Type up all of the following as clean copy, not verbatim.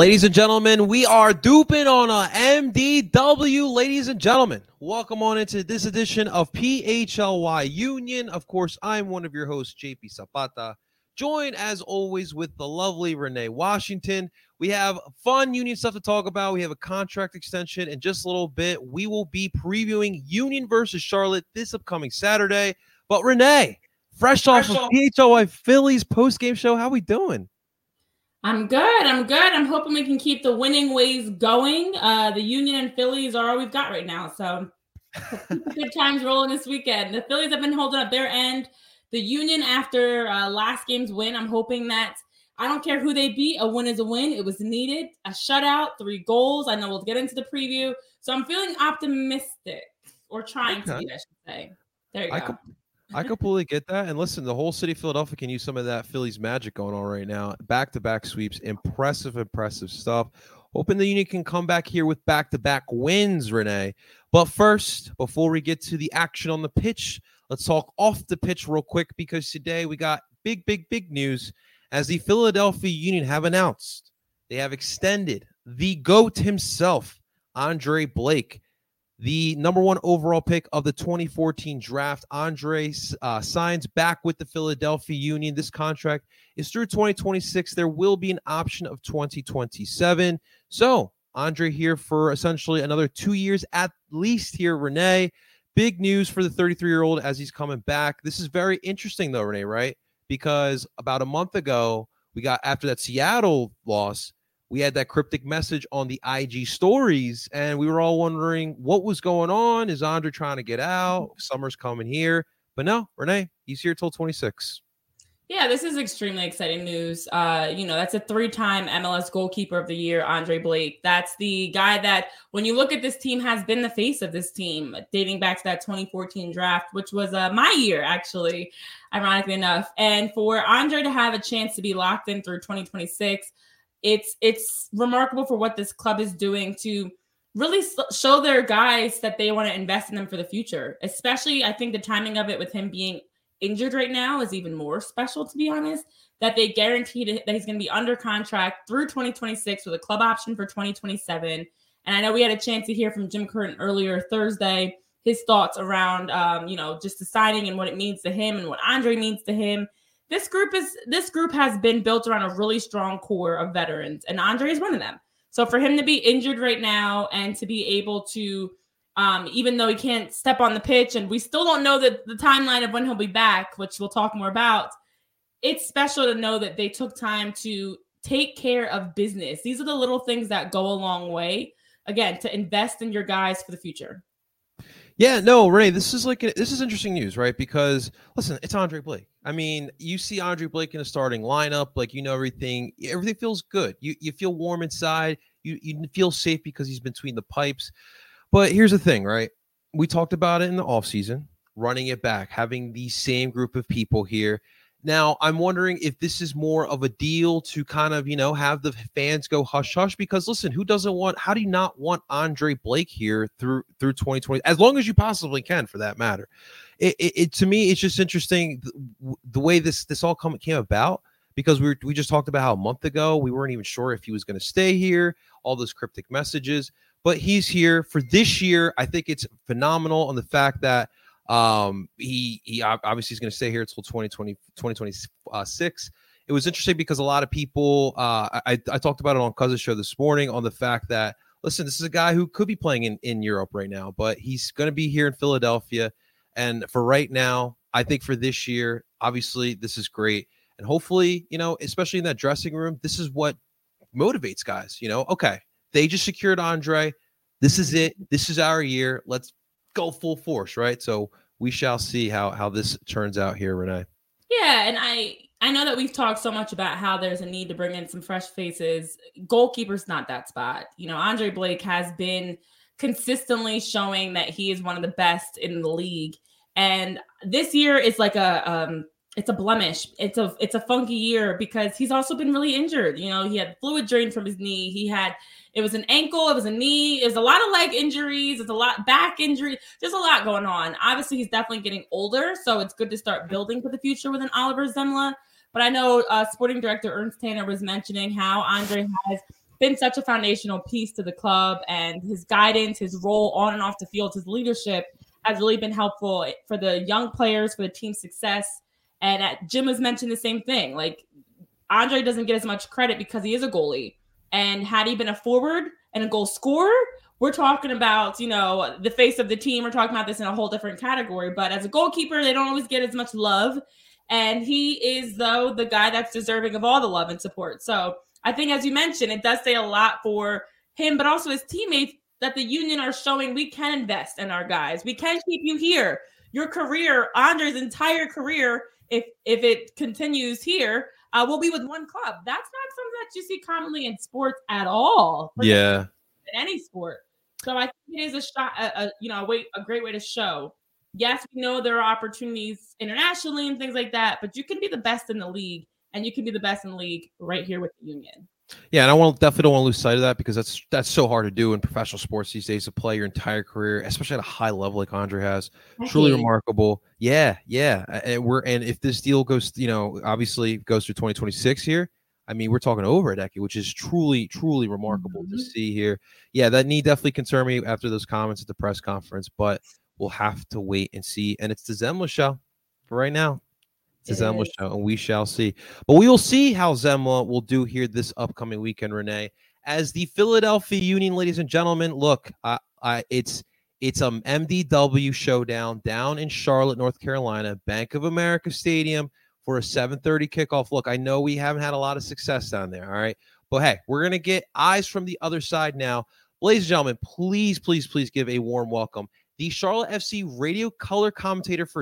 Ladies and gentlemen, we are duping on a MDW. Ladies and gentlemen, welcome on into this edition of PHLY Union. Of course, I'm one of your hosts, JP Zapata, joined as always with the lovely Renee Washington. We have fun Union stuff to talk about. We have a contract extension. In just a little bit, we will be previewing Union versus Charlotte this upcoming Saturday. But Renee, fresh off of PHLY Phillies post-game show, how we doing? I'm good. I'm hoping we can keep the winning ways going. The Union and Phillies are all we've got right now. So good times rolling this weekend. The Phillies have been holding up their end. The Union, after last game's win, I'm hoping that I don't care who they beat, a win is a win. It was needed. A shutout, 3 goals. I know we'll get into the preview. So I'm feeling optimistic, or trying to be, I should say. There you go. I completely get that. And listen, the whole city of Philadelphia can use some of that Phillies magic going on right now. Back-to-back sweeps. Impressive stuff. Hoping the Union can come back here with back-to-back wins, Renee. But first, before we get to the action on the pitch, let's talk off the pitch real quick, because today we got big news as the Philadelphia Union have announced they have extended the GOAT himself, Andre Blake. The number 1 overall pick of the 2014 draft. Andre signs back with the Philadelphia Union. This contract is through 2026. There will be an option of 2027. So Andre here for essentially another 2 years at least here, Renee. Big news for the 33-year-old as he's coming back. This is very interesting though, Renee, right? Because about a month ago, we got, after that Seattle loss, we had that cryptic message on the IG stories, and we were all wondering what was going on. Is Andre trying to get out? Summer's coming here. But no, Renee, he's here till 26. Yeah, this is extremely exciting news. That's a 3-time MLS goalkeeper of the year, Andre Blake. That's the guy that, when you look at this team, has been the face of this team, dating back to that 2014 draft, which was my year, actually, ironically enough. And for Andre to have a chance to be locked in through 2026, it's remarkable for what this club is doing to really show their guys that they want to invest in them for the future. Especially, I think the timing of it with him being injured right now is even more special, to be honest, that they guaranteed that he's going to be under contract through 2026 with a club option for 2027. And I know we had a chance to hear from Jim Curtin earlier Thursday, his thoughts around, just the signing and what it means to him and what Andre means to him. This group has been built around a really strong core of veterans, and Andre is one of them. So for him to be injured right now and to be able to, even though he can't step on the pitch, and we still don't know the timeline of when he'll be back, which we'll talk more about, it's special to know that they took time to take care of business. These are the little things that go a long way, again, to invest in your guys for the future. Yeah, no, Renee, this is interesting news, right? Because listen, it's Andre Blake. I mean, you see Andre Blake in a starting lineup, everything feels good. You feel warm inside. You feel safe because he's between the pipes. But here's the thing, right? We talked about it in the offseason, running it back, having the same group of people here. Now, I'm wondering if this is more of a deal to kind of, have the fans go hush hush, because listen, how do you not want Andre Blake here through 2020, as long as you possibly can, for that matter? It to me, it's just interesting the way this all came about, because we just talked about how a month ago we weren't even sure if he was going to stay here, all those cryptic messages, but he's here for this year. I think it's phenomenal on the fact that he obviously is going to stay here until 2026. It was interesting because a lot of people, I talked about it on Cousin's show this morning, on the fact that, listen, this is a guy who could be playing in Europe right now, but he's going to be here in Philadelphia. And for right now, I think for this year, obviously this is great. And hopefully, especially in that dressing room, this is what motivates guys, okay, they just secured Andre. This is it. This is our year. Let's go full force, right? So we shall see how this turns out here, Renee. Yeah, and I know that we've talked so much about how there's a need to bring in some fresh faces. Goalkeeper's not that spot. Andre Blake has been consistently showing that he is one of the best in the league. And this year is like it's a blemish. It's a funky year because he's also been really injured. He had fluid drain from his knee. It was an ankle, it was a knee, it was a lot of leg injuries, it's a lot back injury. There's a lot going on. Obviously, he's definitely getting older, so it's good to start building for the future with an Oliver Zemla. But I know sporting director Ernst Tanner was mentioning how Andre has been such a foundational piece to the club, and his guidance, his role on and off the field, his leadership has really been helpful for the young players, for the team's success. And Jim has mentioned the same thing. Like, Andre doesn't get as much credit because he is a goalie. And had he been a forward and a goal scorer, we're talking about, the face of the team. We're talking about this in a whole different category. But as a goalkeeper, they don't always get as much love. And he is, though, the guy that's deserving of all the love and support. So I think, as you mentioned, it does say a lot for him, but also his teammates, that the Union are showing we can invest in our guys. We can keep you here. Your career, Andre's entire career, if it continues here, will be with one club. That's not something that you see commonly in sports at all. Yeah. In any sport. So I think it is a shot, a great way to show. Yes, we know there are opportunities internationally and things like that, but you can be the best in the league, and you can be the best in the league right here with the Union. Yeah, and I definitely don't want to lose sight of that, because that's so hard to do in professional sports these days, to play your entire career, especially at a high level like Andre has. Truly remarkable. Yeah. And if this deal goes, obviously goes through 2026 here, I mean, we're talking over a decade, which is truly, truly remarkable to see here. Yeah, that need definitely concern me after those comments at the press conference, but we'll have to wait and see. And it's the Zemla show for right now. It's the Zemla show, and we shall see. But we will see how Zemla will do here this upcoming weekend, Renee. As the Philadelphia Union, ladies and gentlemen, look, it's MDW showdown down in Charlotte, North Carolina, Bank of America Stadium, for a 7:30 kickoff. Look, I know we haven't had a lot of success down there, all right? But, hey, we're going to get eyes from the other side now. Ladies and gentlemen, please, please, please give a warm welcome the Charlotte FC radio color commentator for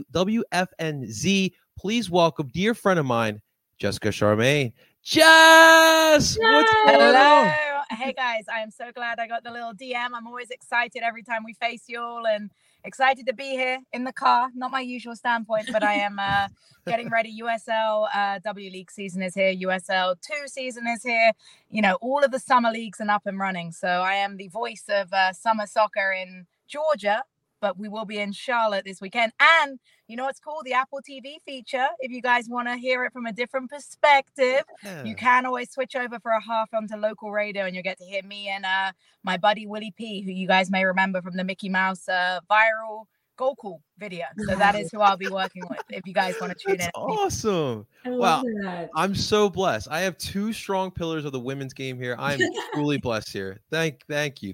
WFNZ. Please welcome dear friend of mine, Jessica Charmaine. Jess! What's going on? Hey, guys. I am so glad I got the little DM. I'm always excited every time we face you all, and excited to be here in the car. Not my usual standpoint, but I am getting ready. USL W League season is here. USL 2 season is here. All of the summer leagues are up and running. So I am the voice of summer soccer in Georgia, but we will be in Charlotte this weekend. And you know what's cool? The Apple TV feature. If you guys want to hear it from a different perspective, you can always switch over for a half onto local radio, and you'll get to hear me and my buddy Willie P, who you guys may remember from the Mickey Mouse viral goal call video. So that is who I'll be working with if you guys want to tune in. Awesome. Wow. I'm so blessed. I have 2 strong pillars of the women's game here. I'm truly blessed here. Thank you.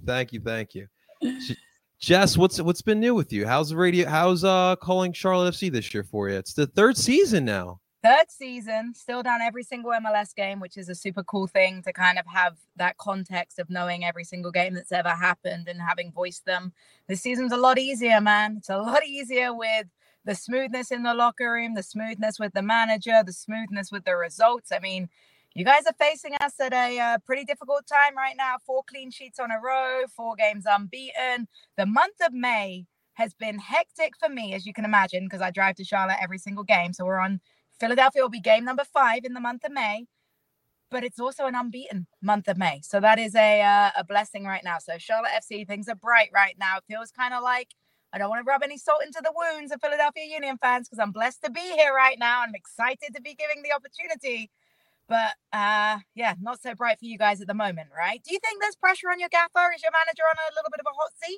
Jess, what's been new with you? How's the radio? How's calling Charlotte FC this year for you? It's the 3rd season now. 3rd season, still down every single MLS game, which is a super cool thing to kind of have that context of knowing every single game that's ever happened and having voiced them. This season's a lot easier, man. It's a lot easier with the smoothness in the locker room, the smoothness with the manager, the smoothness with the results. I mean, you guys are facing us at a pretty difficult time right now. 4 clean sheets on a row, 4 games unbeaten. The month of May has been hectic for me, as you can imagine, because I drive to Charlotte every single game. So we're on Philadelphia will be game number 5 in the month of May, but it's also an unbeaten month of May. So that is a blessing right now. So Charlotte FC, things are bright right now. It feels kind of like, I don't want to rub any salt into the wounds of Philadelphia Union fans, because I'm blessed to be here right now. I'm excited to be giving the opportunity. But, not so bright for you guys at the moment, right? Do you think there's pressure on your gaffer? Is your manager on a little bit of a hot seat?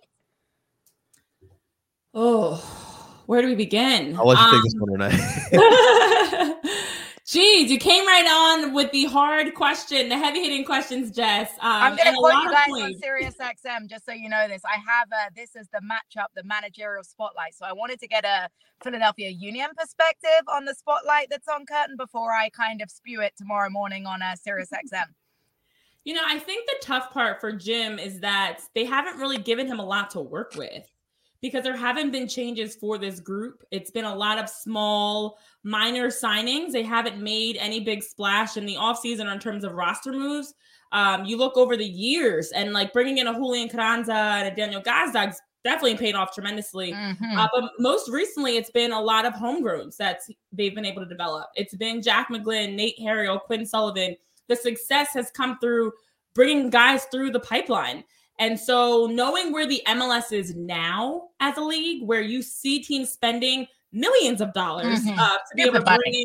Oh, where do we begin? I'll let you take this one, Renee. Geez, you came right on with the hard question, the heavy-hitting questions, Jess. I'm going to quote you guys on Sirius XM, just so you know this. I have this as the matchup, the managerial spotlight. So I wanted to get a Philadelphia Union perspective on the spotlight that's on curtain before I kind of spew it tomorrow morning on Sirius XM. I think the tough part for Jim is that they haven't really given him a lot to work with, because there haven't been changes for this group. It's been a lot of small, minor signings. They haven't made any big splash in the offseason in terms of roster moves. You look over the years, and like bringing in a Julian Carranza and a Daniel Gazdag's definitely paid off tremendously. But most recently, it's been a lot of homegrowns that they've been able to develop. It's been Jack McGlynn, Nate Harriel, Quinn Sullivan. The success has come through bringing guys through the pipeline. And so knowing where the MLS is now as a league, where you see teams spending millions of dollars to be able to bring in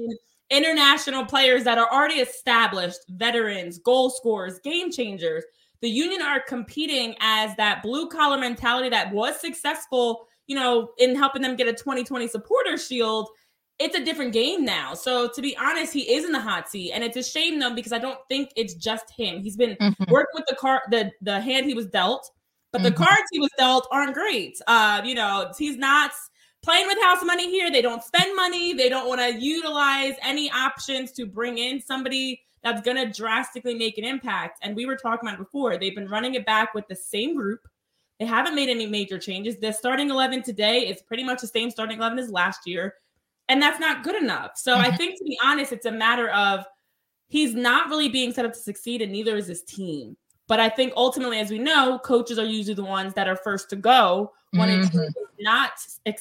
international players that are already established, veterans, goal scorers, game changers. The Union are competing as that blue collar mentality that was successful, in helping them get a 2020 supporter shield. It's a different game now. So to be honest, he is in the hot seat, and it's a shame though, because I don't think it's just him. He's been working with the hand he was dealt, but the cards he was dealt aren't great. He's not playing with house money here. They don't spend money. They don't want to utilize any options to bring in somebody that's going to drastically make an impact. And we were talking about it before. They've been running it back with the same group. They haven't made any major changes. The starting 11 today is pretty much the same starting 11 as last year. And that's not good enough. So I think, to be honest, it's a matter of he's not really being set up to succeed, and neither is his team. But I think ultimately, as we know, coaches are usually the ones that are first to go when a team is not,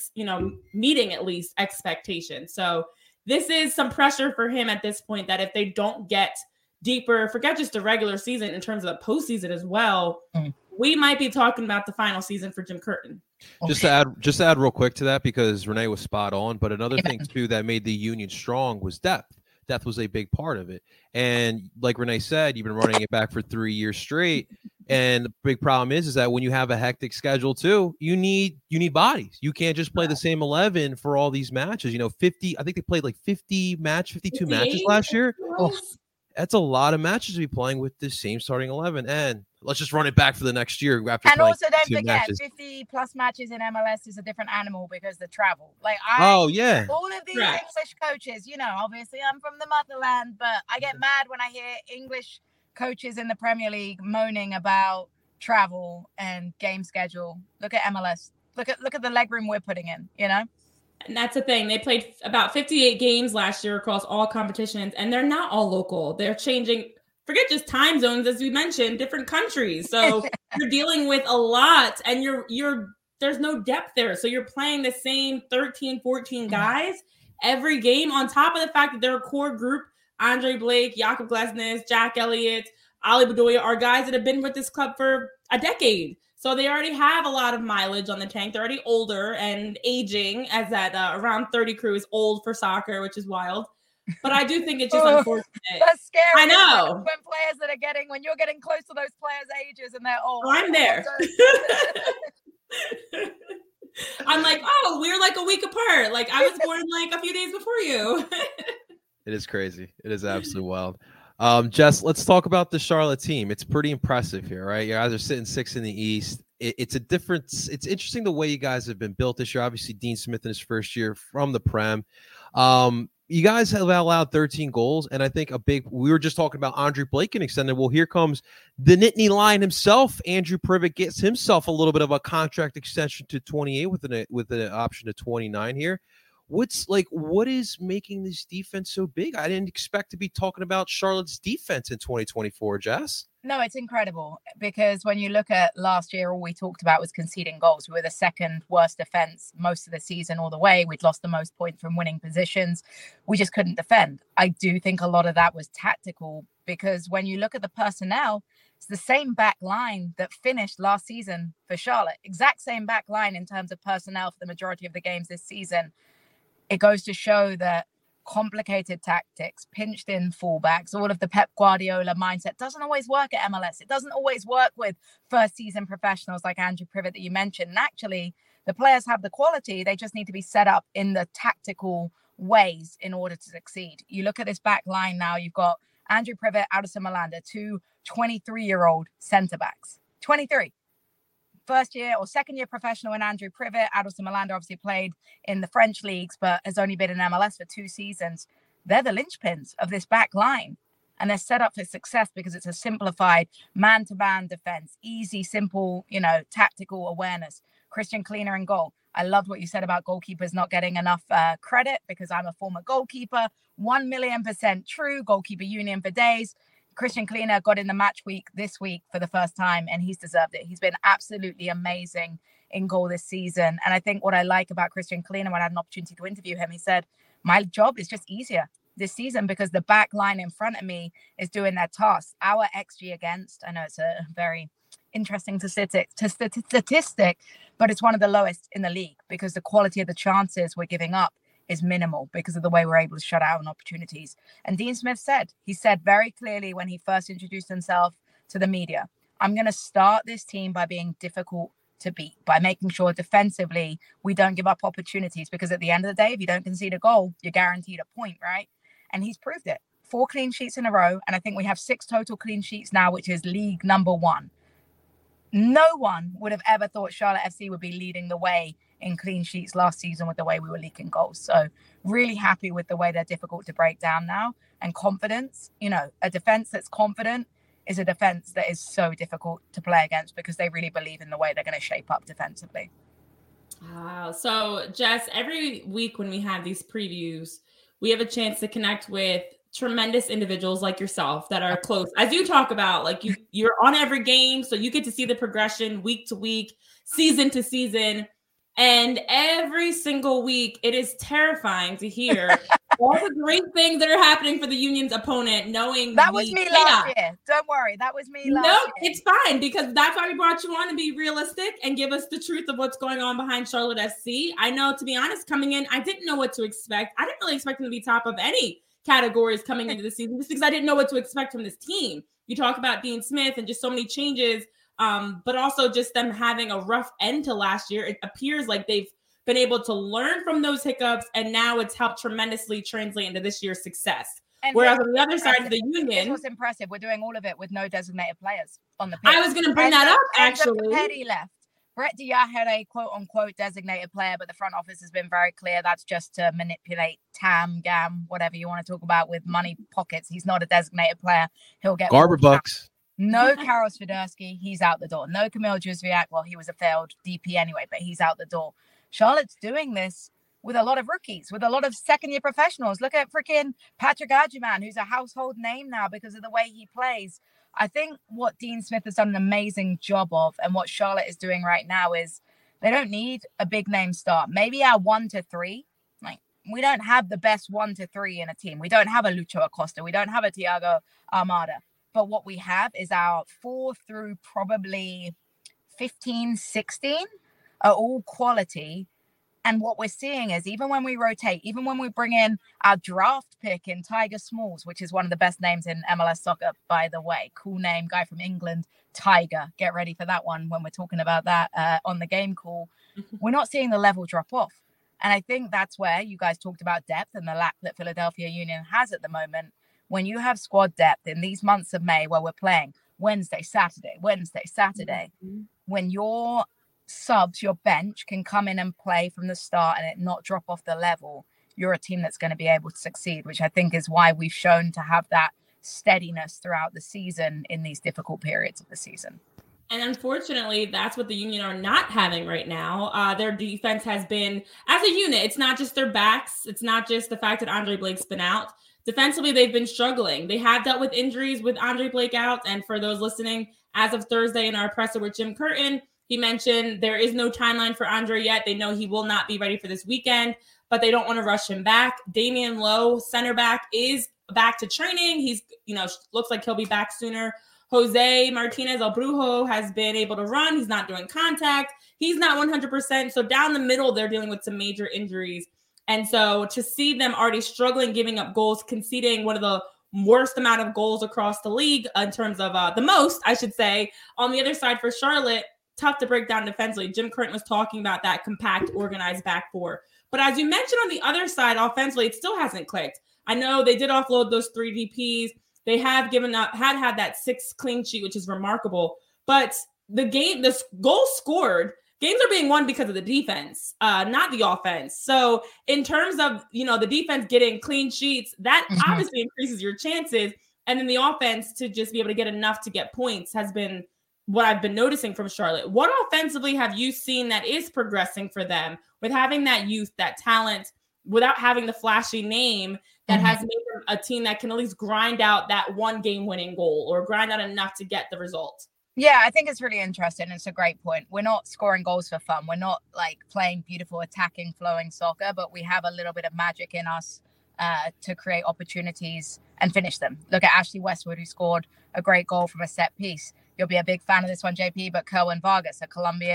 meeting at least expectations. So this is some pressure for him at this point, that if they don't get deeper, forget just the regular season, in terms of the postseason as well, we might be talking about the final season for Jim Curtin. Just to add real quick to that, because Renee was spot on, but another thing too that made the Union strong was depth. Depth was a big part of it. And like Renee said, you've been running it back for 3 years straight. And the big problem is that when you have a hectic schedule too, you need bodies. You can't just play the same 11 for all these matches. 50, I think they played like 52 matches last year. That's a lot of matches to be playing with the same starting 11. And let's just run it back for the next year. And also don't forget, 50 plus matches in MLS is a different animal because the travel. All of these English coaches, obviously I'm from the motherland, but I get mad when I hear English coaches in the Premier League moaning about travel and game schedule. Look at MLS. Look at the legroom we're putting in, And that's the thing. They played about 58 games last year across all competitions, and they're not all local. They're changing, forget just time zones, as we mentioned, different countries. So you're dealing with a lot, and there's no depth there. So you're playing the same 13, 14 guys every game, on top of the fact that they're a core group. Andre Blake, Jakob Glesnes, Jack Elliott, Ali Bedoya are guys that have been with this club for a decade. So they already have a lot of mileage on the tank. They're already older and aging, as that around 30 crew is old for soccer, which is wild. But I do think it's just unfortunate. That's scary. I know. When you're getting close to those players' ages and they're old. Oh, I'm there. I'm like, we're like a week apart. Like I was born like a few days before you. It is crazy. It is absolutely wild. Jess, let's talk about the Charlotte team. It's pretty impressive here, right? You guys are sitting 6th in the East. It's a difference. It's interesting the way you guys have been built this year. Obviously, Dean Smith in his first year from the Prem. You guys have allowed 13 goals, and I think we were just talking about Andre Blake and extended. Well, here comes the Nittany Lion himself. Andrew Privet gets himself a little bit of a contract extension to 28 with an option to 29 here. What is making this defense so big? I didn't expect to be talking about Charlotte's defense in 2024, Jess. No, it's incredible, because when you look at last year, all we talked about was conceding goals. We were the second worst defense most of the season all the way. We'd lost the most points from winning positions. We just couldn't defend. I do think a lot of that was tactical, because when you look at the personnel, it's the same back line that finished last season for Charlotte. Exact same back line in terms of personnel for the majority of the games this season. It goes to show that complicated tactics, pinched in fullbacks, all of the Pep Guardiola mindset doesn't always work at MLS. It doesn't always work with first season professionals like Andrew Privet that you mentioned. And actually, the players have the quality. They just need to be set up in the tactical ways in order to succeed. You look at this back line now, you've got Andrew Privet, Addison Malanda, two 23-year-old centre backs. 23. First year or second year professional in Andrew Privet. Addison Malanda obviously played in the French leagues, but has only been in MLS for 2 seasons. They're the linchpins of this back line, and they're set up for success because it's a simplified man-to-man defense, easy, simple, tactical awareness. Christian Cleaner in goal. I loved what you said about goalkeepers not getting enough credit, because I'm a former goalkeeper. 1,000,000% true. Goalkeeper union for days. Christian Cleaner got in the match week this week for the first time, and he's deserved it. He's been absolutely amazing in goal this season. And I think what I like about Christian Cleaner, when I had an opportunity to interview him, he said, my job is just easier this season because the back line in front of me is doing their task. Our XG against, I know it's a very interesting statistic, but it's one of the lowest in the league because the quality of the chances we're giving up is minimal because of the way we're able to shut out on opportunities. And Dean Smith said very clearly when he first introduced himself to the media, I'm going to start this team by being difficult to beat, by making sure defensively we don't give up opportunities, because at the end of the day, if you don't concede a goal, you're guaranteed a point, right? And he's proved it. 4 clean sheets in a row. And I think we have 6 total clean sheets now, which is league number 1. No one would have ever thought Charlotte FC would be leading the way in clean sheets last season with the way we were leaking goals. So really happy with the way they're difficult to break down now. And confidence, a defense that's confident is a defense that is so difficult to play against because they really believe in the way they're going to shape up defensively. Wow. So Jess, every week when we have these previews, we have a chance to connect with tremendous individuals like yourself that are close. As you talk about, like you're on every game, so you get to see the progression week to week, season to season. And every single week, it is terrifying to hear all the great things that are happening for the Union's opponent, knowing that was me last year. Don't worry, that was me last year. It's fine, because that's why we brought you on, to be realistic and give us the truth of what's going on behind Charlotte FC. I know, to be honest, coming in, I didn't know what to expect. I didn't really expect them to be top of any categories coming into the season, just because I didn't know what to expect from this team. You talk about Dean Smith and just so many changes, but also just them having a rough end to last year. It appears like they've been able to learn from those hiccups, and now it's helped tremendously translate into this year's success. And whereas on the other side of the Union, this was impressive. We're doing all of it with no designated players on the pitch. I was going to bring that up, actually. Petty left. Brett Diaz had a quote-unquote designated player, but the front office has been very clear that's just to manipulate GAM, whatever you want to talk about, with money pockets. He's not a designated player. He'll get Garber bucks. No Karol Swiderski, he's out the door. No Kamil Józwiak, well, he was a failed DP anyway, but he's out the door. Charlotte's doing this with a lot of rookies, with a lot of second-year professionals. Look at freaking Patrick Agyemang, who's a household name now because of the way he plays. I think what Dean Smith has done an amazing job of, and what Charlotte is doing right now, is they don't need a big name start. Maybe our 1 to 3. Like, we don't have the best 1 to 3 in a team. We don't have a Lucho Acosta. We don't have a Thiago Almada. But what we have is our 4 through probably 15, 16 are all quality. And what we're seeing is, even when we rotate, even when we bring in our draft pick in Tiger Smalls, which is one of the best names in MLS soccer, by the way, cool name, guy from England, Tiger, get ready for that one when we're talking about that on the game call. We're not seeing the level drop off. And I think that's where you guys talked about depth and the lack that Philadelphia Union has at the moment. When you have squad depth in these months of May where we're playing Wednesday, Saturday, when your subs, your bench can come in and play from the start and it not drop off the level, you're a team that's going to be able to succeed, which I think is why we've shown to have that steadiness throughout the season in these difficult periods of the season. And unfortunately, that's what the Union are not having right now. Their defense has been, as a unit, it's not just their backs. It's not just the fact that Andre Blake's been out. Defensively, they've been struggling. They have dealt with injuries with Andre Blake out. And for those listening, as of Thursday in our presser with Jim Curtin, he mentioned there is no timeline for Andre yet. They know he will not be ready for this weekend, but they don't want to rush him back. Damian Lowe, center back, is back to training. He's, looks like he'll be back sooner. Jose Martinez El Brujo has been able to run. He's not doing contact. He's not 100%. So down the middle, they're dealing with some major injuries. And so to see them already struggling, giving up goals, conceding one of the worst amount of goals across the league in terms of the most, I should say, on the other side for Charlotte, tough to break down defensively. Jim Curtin was talking about that compact, organized back four. But as you mentioned on the other side, offensively, it still hasn't clicked. I know they did offload those 3 DPs. They have given up, had that 6 clean sheet, which is remarkable. But the goal scored, games are being won because of the defense, not the offense. So in terms of, the defense getting clean sheets, that obviously increases your chances. And then the offense to just be able to get enough to get points has been what I've been noticing from Charlotte. What offensively have you seen that is progressing for them with having that youth, that talent, without having the flashy name that has made them a team that can at least grind out that 1 game winning goal or grind out enough to get the result? Yeah, I think it's really interesting. It's a great point. We're not scoring goals for fun. We're not like playing beautiful, attacking, flowing soccer, but we have a little bit of magic in us to create opportunities and finish them. Look at Ashley Westwood, who scored a great goal from a set piece. You'll be a big fan of this one, JP, but Kerwin Vargas, a Colombian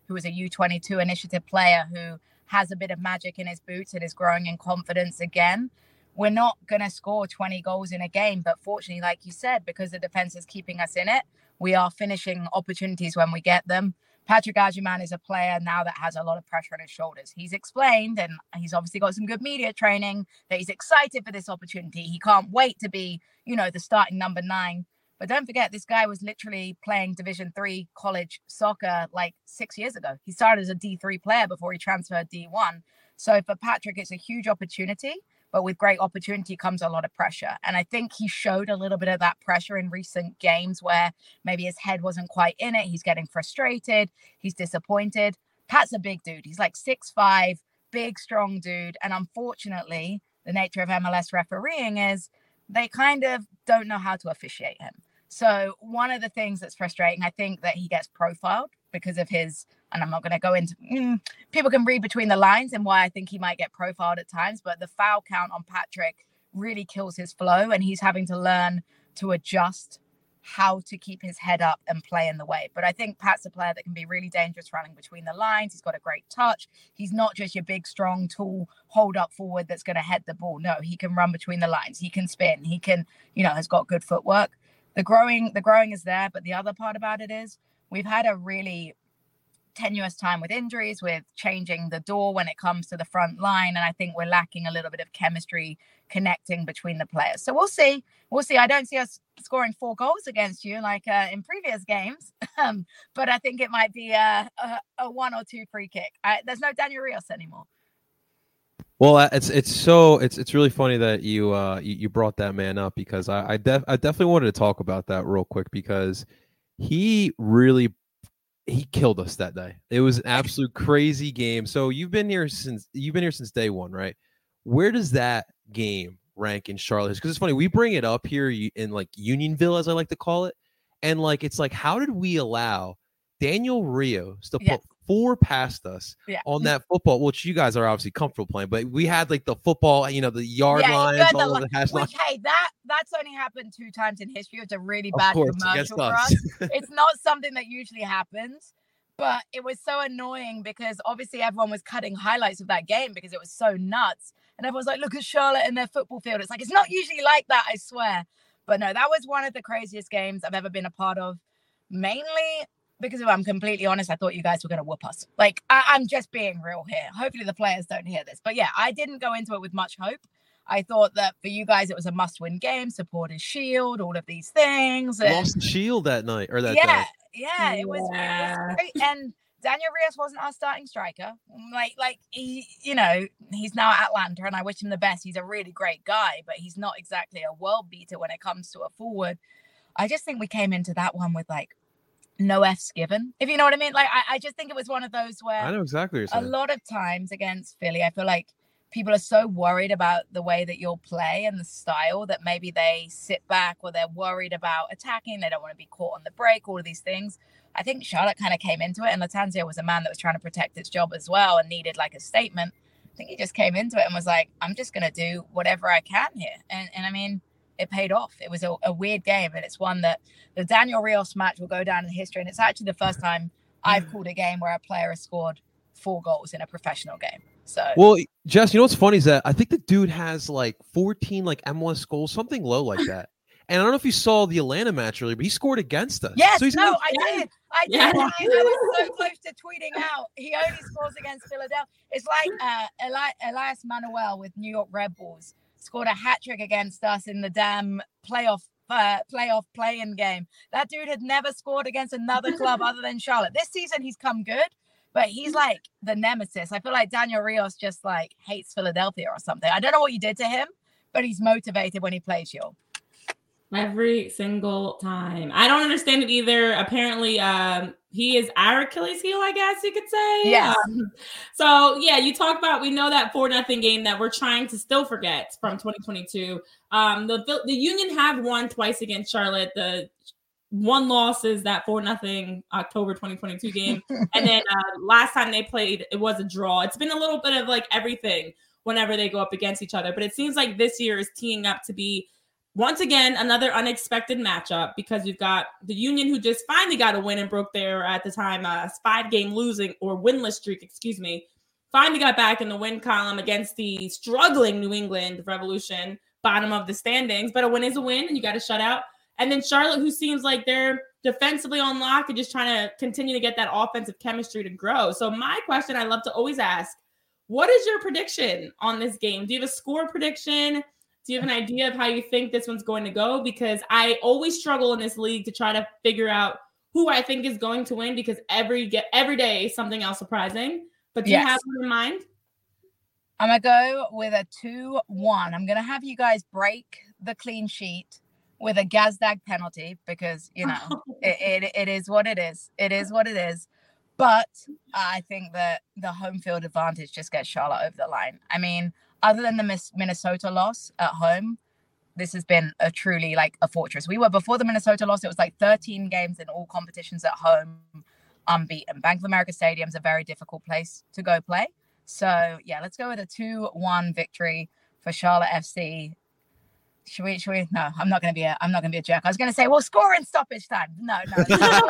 who is a U22 initiative player who has a bit of magic in his boots and is growing in confidence again. We're not going to score 20 goals in a game, but fortunately, like you said, because the defense is keeping us in it, we are finishing opportunities when we get them. Patrick Agyemang is a player now that has a lot of pressure on his shoulders. He's explained, and he's obviously got some good media training, that he's excited for this opportunity. He can't wait to be, the starting number 9. But don't forget, this guy was literally playing Division 3 college soccer like 6 years ago. He started as a D3 player before he transferred D1. So for Patrick, it's a huge opportunity. But with great opportunity comes a lot of pressure. And I think he showed a little bit of that pressure in recent games where maybe his head wasn't quite in it. He's getting frustrated. He's disappointed. Pat's a big dude. He's like 6'5", big, strong dude. And unfortunately, the nature of MLS refereeing is they kind of don't know how to officiate him. So one of the things that's frustrating, I think that he gets profiled because of his, and I'm not going to go into, people can read between the lines and why I think he might get profiled at times, but the foul count on Patrick really kills his flow, and he's having to learn to adjust how to keep his head up and play in the way. But I think Pat's a player that can be really dangerous running between the lines. He's got a great touch. He's not just your big, strong, tall, hold up forward that's going to head the ball. No, he can run between the lines. He can spin. He can, has got good footwork. The growing is there, but the other part about it is we've had a really tenuous time with injuries, with changing the door when it comes to the front line. And I think we're lacking a little bit of chemistry connecting between the players. So we'll see. I don't see us scoring 4 goals against you like in previous games. But I think it might be a 1 or 2 free kick. There's no Daniel Rios anymore. Well, it's really funny that you brought that man up, because I definitely wanted to talk about that real quick, because he killed us that day. It was an absolute crazy game. So you've been here since day one, right? Where does that game rank in Charlotte? Because it's funny, we bring it up here in like Unionville, as I like to call it, and like it's like, how did we allow Daniel Rios to put 4 past us on that football, which you guys are obviously comfortable playing, but we had like the football, the yard lines, all of the hash lines. Hey, that's only happened 2 times in history. It's a really bad commercial for us. It's not something that usually happens, but it was so annoying because obviously everyone was cutting highlights of that game because it was so nuts. And everyone's like, look at Charlotte in their football field. It's like, it's not usually like that, I swear. But no, that was one of the craziest games I've ever been a part of, mainly because if I'm completely honest, I thought you guys were going to whoop us. Like, I'm just being real here. Hopefully the players don't hear this. But yeah, I didn't go into it with much hope. I thought that for you guys, it was a must-win game, supporters shield, all of these things. And lost the shield that night or that day. Yeah, it was great. And Daniel Rios wasn't our starting striker. Like he, he's now at Atlanta, and I wish him the best. He's a really great guy, but he's not exactly a world beater when it comes to a forward. I just think we came into that one with like no F's given, if you know what I mean. Like, I just think it was one of those where I know exactly what you're saying. A lot of times against Philly, I feel like people are so worried about the way that you'll play and the style that maybe they sit back, or they're worried about attacking. They don't want to be caught on the break, all of these things. I think Charlotte kind of came into it, and Lattanzio was a man that was trying to protect his job as well and needed like a statement. I think he just came into it and was like, I'm just going to do whatever I can here. And I mean, it paid off. It was a weird game, and it's one that the Daniel Rios match will go down in history. And it's actually the first time I've called a game where a player has scored 4 goals in a professional game. So, well, Jess, what's funny is that I think the dude has like 14 like MLS goals, something low like that. And I don't know if you saw the Atlanta match earlier, but he scored against us. Yes, so he's I did. I was so close to tweeting out. He only scores against Philadelphia. It's like Elias Manuel with New York Red Bulls scored a hat trick against us in the damn playoff play-in game. That dude had never scored against another club other than Charlotte. This season he's come good, but he's like the nemesis. I feel like Daniel Rios just like hates Philadelphia or something. I don't know what you did to him, but he's motivated when he plays you. Every single time. I don't understand it either. Apparently, he is our Achilles heel, I guess you could say. Yeah. So, yeah, you talk about, we know that 4-0 game that we're trying to still forget from 2022. The Union have won twice against Charlotte. The one loss is that 4-0 October 2022 game. And then last time they played, it was a draw. It's been a little bit of like everything whenever they go up against each other. But it seems like this year is teeing up to be once again, another unexpected matchup because we've got the Union who just finally got a win and broke their, at the time, 5-game losing or winless streak, finally got back in the win column against the struggling New England Revolution, bottom of the standings. But a win is a win, and you got to shut out. And then Charlotte, who seems like they're defensively on lock and just trying to continue to get that offensive chemistry to grow. So my question I love to always ask, what is your prediction on this game? Do you have a score prediction? Do you have an idea of how you think this one's going to go? Because I always struggle in this league to try to figure out who I think is going to win because every day something else surprising. But do you have one in mind? I'm going to go with a 2-1. I'm going to have you guys break the clean sheet with a Gazdag penalty because, you know, it is what it is. It is what it is. But I think that the home field advantage just gets Charlotte over the line. I mean, other than the Minnesota loss at home, this has been a truly like a fortress. We were, before the Minnesota loss, it was like 13 games in all competitions at home, unbeaten. Bank of America Stadium is a very difficult place to go play. So yeah, let's go with a 2-1 victory for Charlotte FC. Should we? No, I'm not going to be a jerk. I was going to say, well, score in stoppage time. No. Won't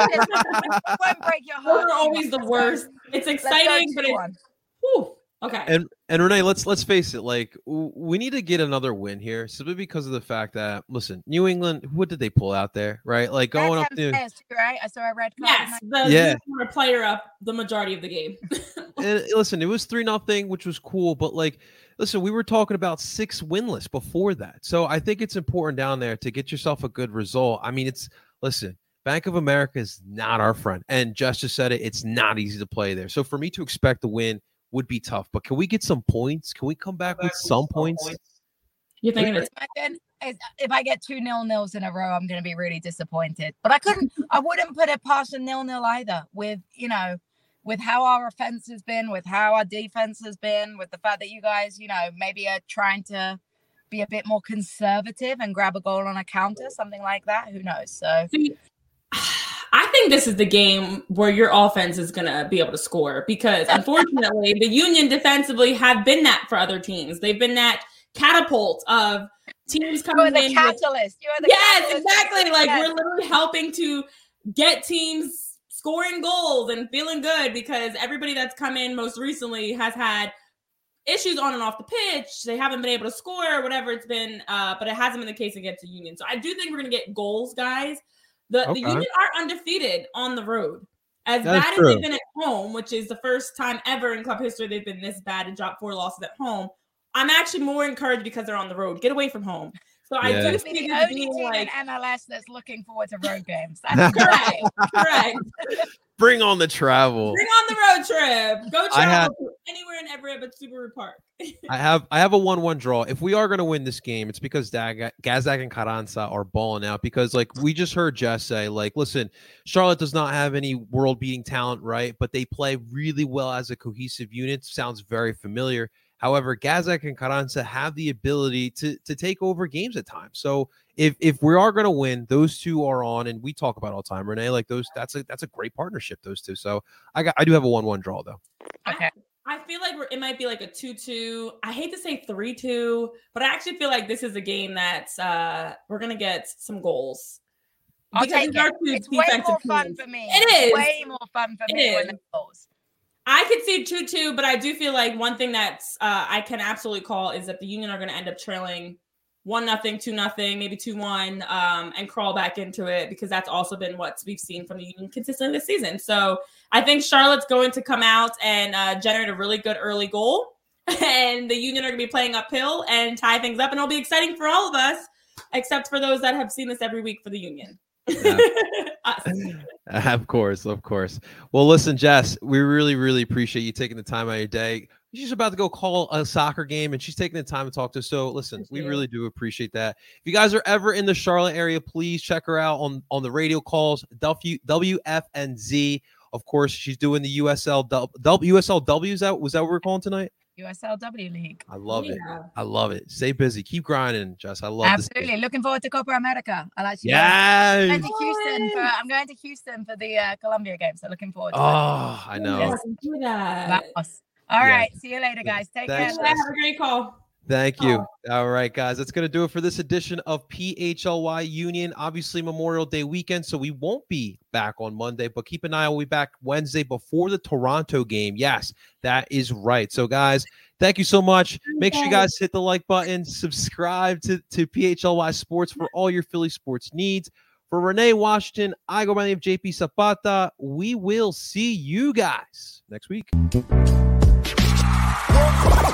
break your heart. We're always the worst. It's exciting, but it's whew. Okay. And Renee, let's face it. Like we need to get another win here, simply because of the fact that New England. What did they pull out there, right? Like going up to right. I saw a red card. Yes, the player up the majority of the game. And listen, it was 3-0, which was cool. But like, listen, we were talking about 6 winless before that, so I think it's important down there to get yourself a good result. I mean, Bank of America is not our friend, and Justice said it. It's not easy to play there. So for me to expect the win would be tough, but can we get some points? Can we come back with some points? You're thinking if I get 2 0-0s in a row, I'm going to be really disappointed. But I wouldn't put it past a 0-0 either. With how our offense has been, with how our defense has been, with the fact that you guys, maybe are trying to be a bit more conservative and grab a goal on a counter, something like that. Who knows? So. I think this is the game where your offense is going to be able to score because, unfortunately, the Union defensively have been that for other teams. They've been that catapult of teams coming in. You're the catalyst. Yes, exactly. Like, we're literally helping to get teams scoring goals and feeling good because everybody that's come in most recently has had issues on and off the pitch. They haven't been able to score or whatever it's been, but it hasn't been the case against the Union. So I do think we're going to get goals, guys. The Union are undefeated on the road. As bad as they've been at home, which is the first time ever in club history they've been this bad and dropped 4 losses at home, I'm actually more encouraged because they're on the road. Get away from home. So I do see the only team in MLS that's looking forward to road games. That's correct. Bring on the travel. Bring on the road trip. Go travel to anywhere and everywhere but Subaru Park. I have a 1-1 draw. If we are going to win this game, it's because Gazdag and Carranza are balling out. Because like we just heard Jess say, like, listen, Charlotte does not have any world-beating talent, right? But they play really well as a cohesive unit. Sounds very familiar. However, Gazdag and Carranza have the ability to take over games at times. So if we are going to win, those two are on, and we talk about all the time, Renee. Like that's a great partnership, those two. So I do have a 1-1 draw though. Okay. I feel like it might be like a 2-2. I hate to say 3-2, but I actually feel like this is a game that's we're gonna get some goals. I'll take it. It's way more fun for me. It is way more fun for me when the goals. I could see 2-2, but I do feel like one thing that's I can absolutely call is that the Union are going to end up trailing 1-0, 2-0, maybe 2-1, and crawl back into it because that's also been what we've seen from the Union consistently this season. So I think Charlotte's going to come out and generate a really good early goal, and the Union are going to be playing uphill and tie things up, and it'll be exciting for all of us, except for those that have seen this every week for the Union. Yeah. Of course. Well, listen, Jess, we really, really appreciate you taking the time out of your day. She's about to go call a soccer game, and she's taking the time to talk to us. So, listen, we really do appreciate that. If you guys are ever in the Charlotte area, please check her out on the radio calls, WFNZ. Of course, she's doing the USLW. Was that what we're calling tonight? USLW League. I love it. I love it. Stay busy. Keep grinding, Jess. I love this. Absolutely. Looking forward to Copa America. I'll actually I'm going to Houston for the Colombia game. So looking forward to it. I know. Yes, do that. All right. See you later, guys. Take care. Have a great call. Thank you. All right, guys, that's going to do it for this edition of PHLY Union. Obviously, Memorial Day weekend, so we won't be back on Monday, but keep an eye. We'll be back Wednesday before the Toronto game. Yes, that is right. So, guys, thank you so much. Make sure you guys hit the like button, subscribe to PHLY Sports for all your Philly sports needs. For Renee Washington, I go by the name of JP Zapata. We will see you guys next week.